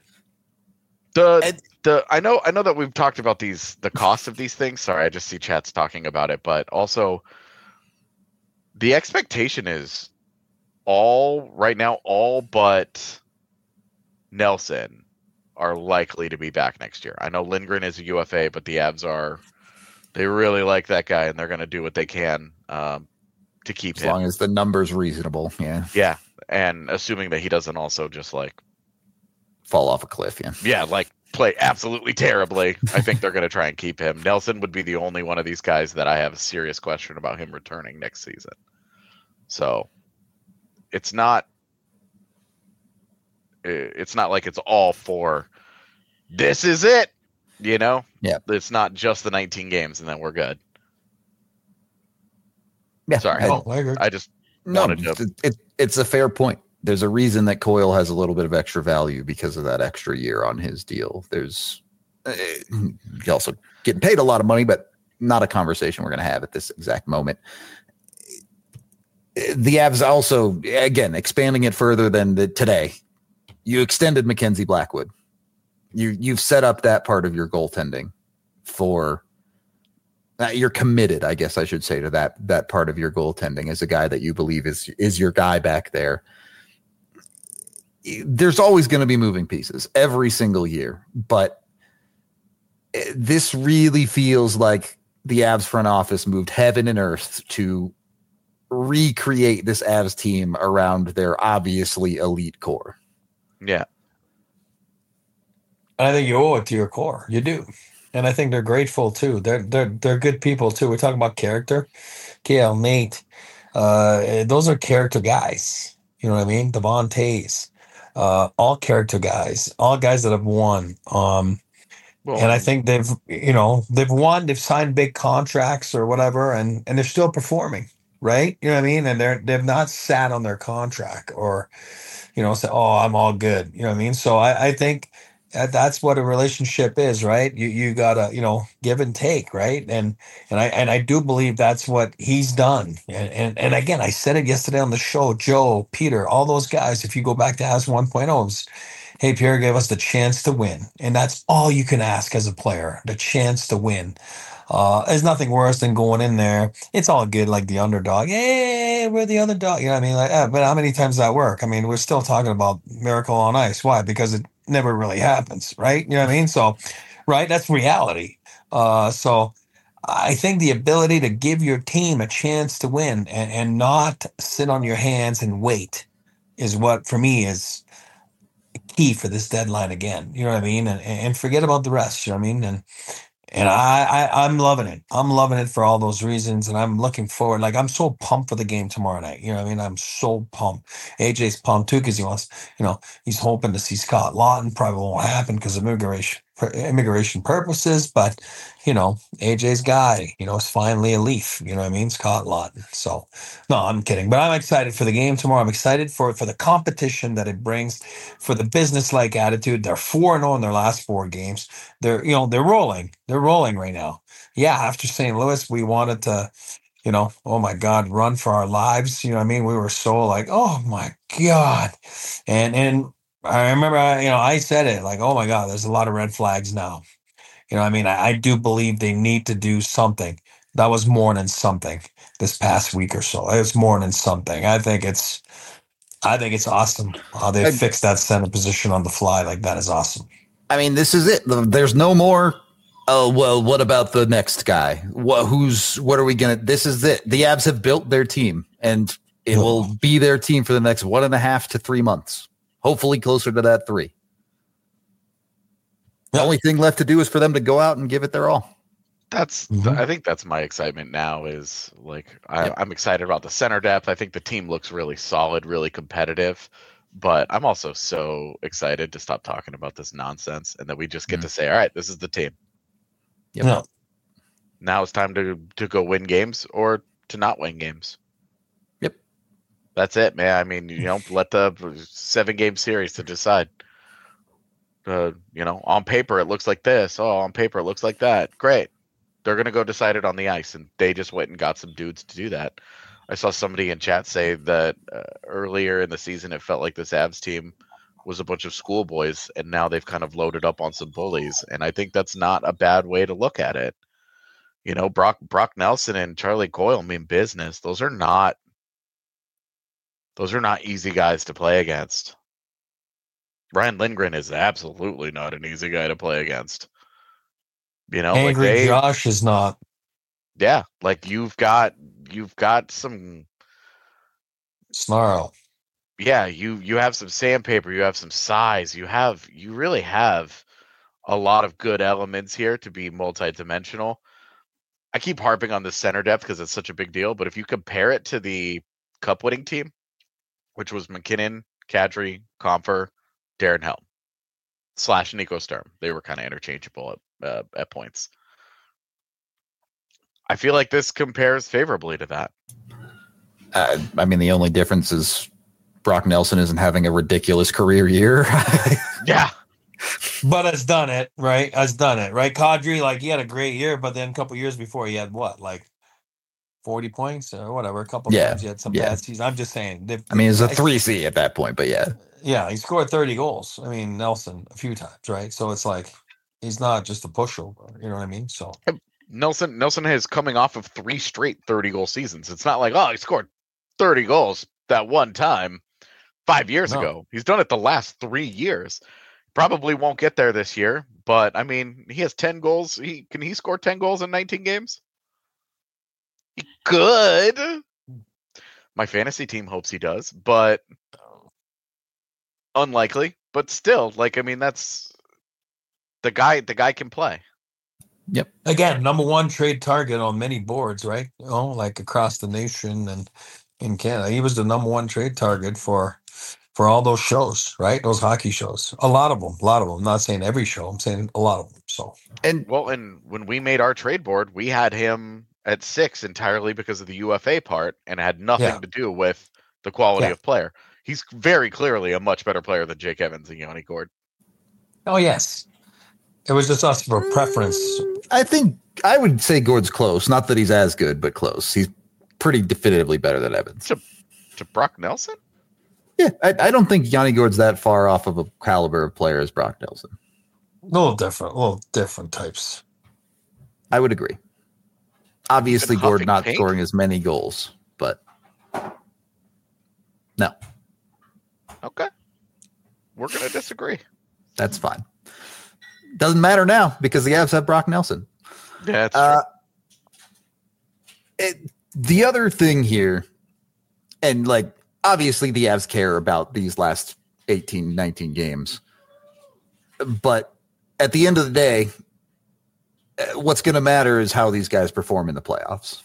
I know that we've talked about the cost of these things. Sorry, I just see chats talking about it, but also the expectation is all but Nelson are likely to be back next year. I know Lindgren is a UFA, but the Avs they really like that guy and they're going to do what they can to keep As him. long as the number's reasonable. Yeah. Yeah, and assuming that he doesn't also just Fall off a cliff. Yeah. yeah, play absolutely terribly. I think they're going to try and keep him. Nelson would be the only one of these guys that I have a serious question about him returning next season. So it's not like it's all for this is it, Yeah. It's not just the 19 games and then we're good. Yeah. Sorry. I agree. I just No, wanted to it's a fair point. There's a reason that Coyle has a little bit of extra value because of that extra year on his deal. There's he's also getting paid a lot of money, but not a conversation we're going to have at this exact moment. The Avs also, again, expanding it further than today. You extended Mackenzie Blackwood. You've set up that part of your goaltending for. You're committed, I guess I should say, to that part of your goaltending as a guy that you believe is your guy back there. There's always going to be moving pieces every single year, but this really feels like the Avs front office moved heaven and earth to recreate this Avs team around their obviously elite core. yeah. I think you owe it to your core. You do. And I think they're grateful too. They're good people too. We're talking about character. KL, Nate, those are character guys. You know what I mean? Devon Tays, all character guys, all guys that have won. And I think they've won, they've signed big contracts or whatever, and they're still performing, right? You know what I mean? And they've not sat on their contract or, say, oh, I'm all good. You know what I mean? So I think that's what a relationship is, right? You gotta, give and take, right? And I do believe that's what he's done. And again, I said it yesterday on the show, Joe, Peter, all those guys, if you go back to Avs 1.0, hey, Pierre gave us the chance to win. And that's all you can ask as a player, the chance to win. There's nothing worse than going in there. It's all good, like the underdog. Hey, we're the underdog. You know what I mean? But how many times does that work? I mean, we're still talking about Miracle on Ice. Why? Because it never really happens, right? You know what I mean? So, right, that's reality. So I think the ability to give your team a chance to win and not sit on your hands and wait is what, for me, is key for this deadline again. You know what I mean? And forget about the rest. You know what I mean? And I'm loving it. I'm loving it for all those reasons. And I'm looking forward. I'm so pumped for the game tomorrow night. You know what I mean? I'm so pumped. AJ's pumped too because he wants, he's hoping to see Scott Lawton. Probably won't happen because of immigration purposes. But, AJ's guy, is finally a Leaf. You know what I mean? Scott Lawton. So, no, I'm kidding. But I'm excited for the game tomorrow. I'm excited for the competition that it brings, for the business-like attitude. They're 4-0 in their last 4 games. They're rolling. They're rolling right now. Yeah, after St. Louis, we wanted to, oh my God, run for our lives. You know what I mean? We were so oh my God. And I remember, I said it oh my God, there's a lot of red flags now. You know what I mean? I do believe they need to do something. That was more than something this past week or so. It was more than something. I think it's I think it's awesome how they fixed that center position on the fly. Like, that is awesome. I mean, this is it. There's no more. Oh, well, what about the next guy? What are we going to? This is it. The Avs have built their team, and it will be their team for the next 1.5 to 3 months. Hopefully closer to that 3. The only thing left to do is for them to go out and give it their all. I think that's my excitement now is like, I'm excited about the center depth. I think the team looks really solid, really competitive, but I'm also so excited to stop talking about this nonsense and that we just get to say, all right, this is the team. Yep. No. Now it's time to go win games or to not win games. Yep. That's it, man. I mean, let the 7-game series to decide. On paper it looks like this. Oh, on paper it looks like that. Great. They're going to go decide it on the ice, and they just went and got some dudes to do that. I saw somebody in chat say that earlier in the season it felt like this Avs team was a bunch of schoolboys, and now they've kind of loaded up on some bullies, and I think that's not a bad way to look at it. Brock Nelson and Charlie Coyle mean business. Those are not easy guys to play against. Ryan Lindgren is absolutely not an easy guy to play against. Angry Josh is not. Yeah, like you've got some snarl. Yeah, you have some sandpaper, you have some size, you really have a lot of good elements here to be multidimensional. I keep harping on the center depth because it's such a big deal, but if you compare it to the cup winning team, which was McKinnon, Kadri, Compher, Darren Helm / Nico Sturm, they were kind of interchangeable at points. I feel like this compares favorably to that. I mean, the only difference is Brock Nelson isn't having a ridiculous career year. Yeah. But has done it, right? Kadri, like, he had a great year, but then a couple years before he had what, like 40 points or whatever. A couple times he had some bad seasons. I'm just saying. I mean, it's a 3C at that point, but yeah. Yeah, he scored 30 goals. I mean, Nelson a few times, right? So it's like he's not just a pushover. You know what I mean? So Nelson is coming off of 3 straight 30-goal seasons. It's not like, he scored 30 goals that one time 5 years ago. He's done it the last 3 years. Probably won't get there this year, but I mean, he has 10 goals. Can he score 10 goals in 19 games? He could. My fantasy team hopes he does, but unlikely. But still, like, I mean, that's the guy can play. Yep. Again, number 1 trade target on many boards, right? Like across the nation and in Canada. He was the number 1 trade target for all those shows, right? Those hockey shows. A lot of them. I'm not saying every show. I'm saying a lot of them. So, and when we made our trade board, we had him at 6 entirely because of the UFA part, and it had nothing to do with the quality of player. He's very clearly a much better player than Jake Evans and Yanni Gourde. Oh, yes. It was just us for preference. I think I would say Gourde's close. Not that he's as good, but close. He's pretty definitively better than Evans. To Brock Nelson? Yeah, I don't think Yanni Gourde's that far off of a caliber of player as Brock Nelson. A little different types. I would agree. Obviously, Gourde not scoring as many goals, but no. Okay. We're going to disagree. That's fine. Doesn't matter now because the Avs have Brock Nelson. Yeah, that's true. The other thing here, and like, obviously the Avs care about these last 18, 19 games, but at the end of the day, what's going to matter is how these guys perform in the playoffs.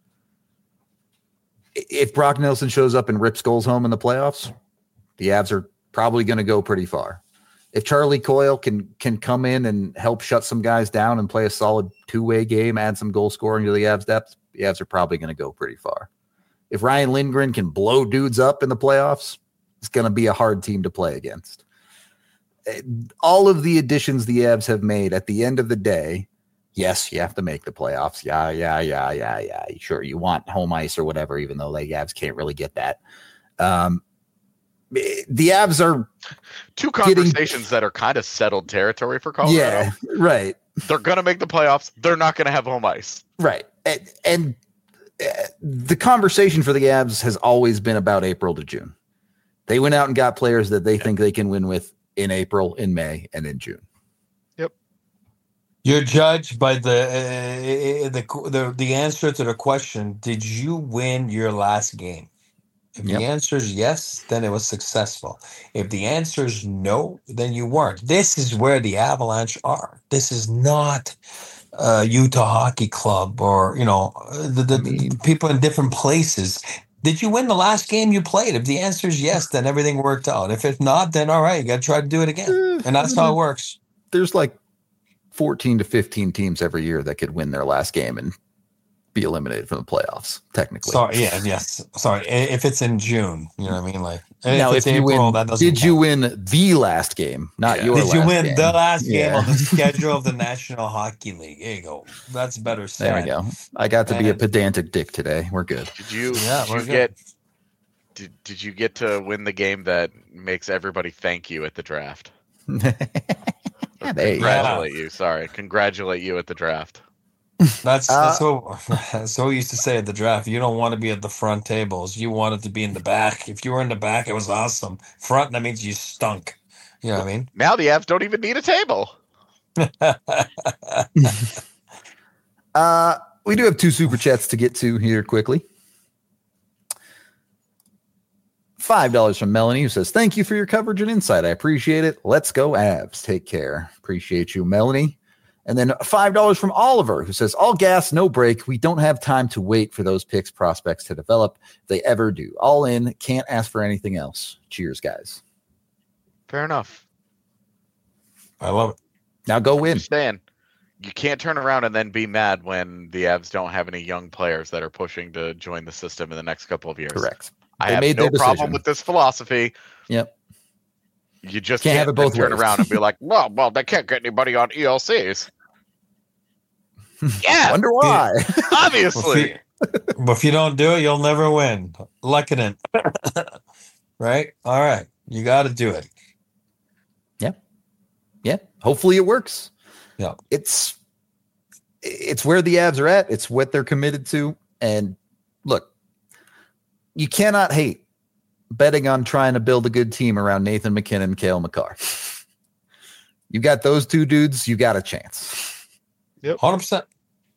If Brock Nelson shows up and rips goals home in the playoffs, the Avs are probably going to go pretty far. If Charlie Coyle can come in and help shut some guys down and play a solid 2-way game, add some goal scoring to the Avs depth, the Avs are probably going to go pretty far. If Ryan Lindgren can blow dudes up in the playoffs, it's going to be a hard team to play against. All of the additions the Avs have made at the end of the day, yes, you have to make the playoffs. Yeah. Sure, you want home ice or whatever, even though the Avs can't really get that. The Avs are 2 conversations that are kind of settled territory for Colorado. Yeah, right. They're going to make the playoffs. They're not going to have home ice. Right. And the conversation for the Avs has always been about April to June. They went out and got players that they think they can win with in April, in May, and in June. You're judged by the answer to the question, did you win your last game? If Yep. the answer is yes, then it was successful. If the answer is no, then you weren't. This is where the Avalanche are. This is not Utah Hockey Club or, the people in different places. Did you win the last game you played? If the answer is yes, then everything worked out. If it's not, then all right, you got to try to do it again. And that's how it works. There's like 14 to 15 teams every year that could win their last game and be eliminated from the playoffs, technically. Sorry, yes. Sorry, if it's in June, you know what I mean? Like, now, if you April, win, did you win the last game, not your last game? Did you win the last game on the schedule of the National Hockey League? There you go. That's better said. There we go. I got to be a pedantic dick today. We're good. Did you get to win the game that makes everybody thank you at the draft? Congratulate you. Sorry. Congratulate you at the draft. That's what we used to say at the draft. You don't want to be at the front tables. You wanted to be in the back. If you were in the back, it was awesome. Front, that means you stunk. You know what I mean? Now the Avs don't even need a table. We do have 2 super chats to get to here quickly. $5 from Melanie, who says, thank you for your coverage and insight. I appreciate it. Let's go Avs. Take care. Appreciate you, Melanie. And then $5 from Oliver, who says, all gas, no break. We don't have time to wait for those picks prospects to develop. If they ever do. All in. Can't ask for anything else. Cheers, guys. Fair enough. I love it. Now go win. Stan, you can't turn around and then be mad when the Avs don't have any young players that are pushing to join the system in the next couple of years. Correct. I have no problem with this philosophy. Yep. You just can't have it both turn around and be like, well, they can't get anybody on ELCs. Yeah. Wonder why. Obviously. But if you don't do it, you'll never win. Lekanen. Right? All right. You got to do it. Yeah. Hopefully it works. Yeah. It's where the Avs are at. It's what they're committed to. And look, you cannot hate betting on trying to build a good team around Nathan McKinnon and Cale Makar. You got those 2 dudes, you got a chance. Yep. 100%.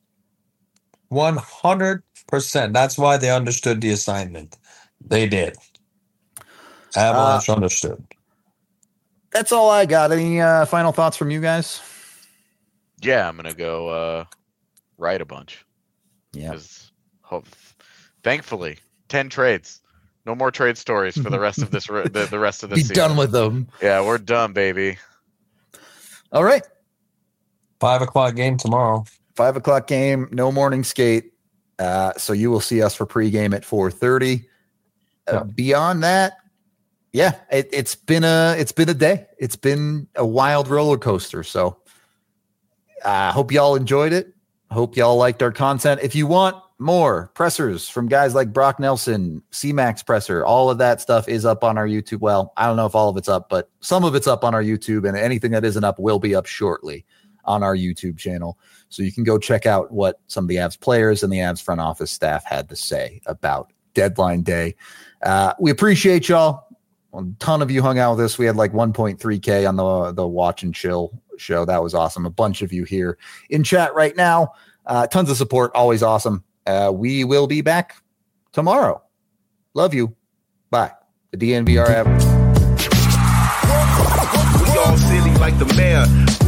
100%. That's why they understood the assignment. They did. Avalanche understood. That's all I got. Any final thoughts from you guys? Yeah, I'm going to go write a bunch. Yeah. Thankfully, 10 trades. No more trade stories for the rest of this. The rest of this season. Be done with them. Yeah, we're done, baby. All right. 5:00 game tomorrow. 5:00 game. No morning skate. So you will see us for pregame at 4:30. Beyond that, yeah, it's been a day. It's been a wild roller coaster. So I hope y'all enjoyed it. Hope y'all liked our content. If you want more pressers from guys like Brock Nelson, C-Max presser, all of that stuff is up on our YouTube. Well, I don't know if all of it's up, but some of it's up on our YouTube, and anything that isn't up will be up shortly on our YouTube channel. So you can go check out what some of the Avs players and the Avs front office staff had to say about deadline day. We appreciate y'all. A ton of you hung out with us. We had like 1.3K on the Watch and Chill show. That was awesome. A bunch of you here in chat right now. Tons of support. Always awesome. We will be back tomorrow. Love you. Bye. The DNVR app. We all silly like the mayor.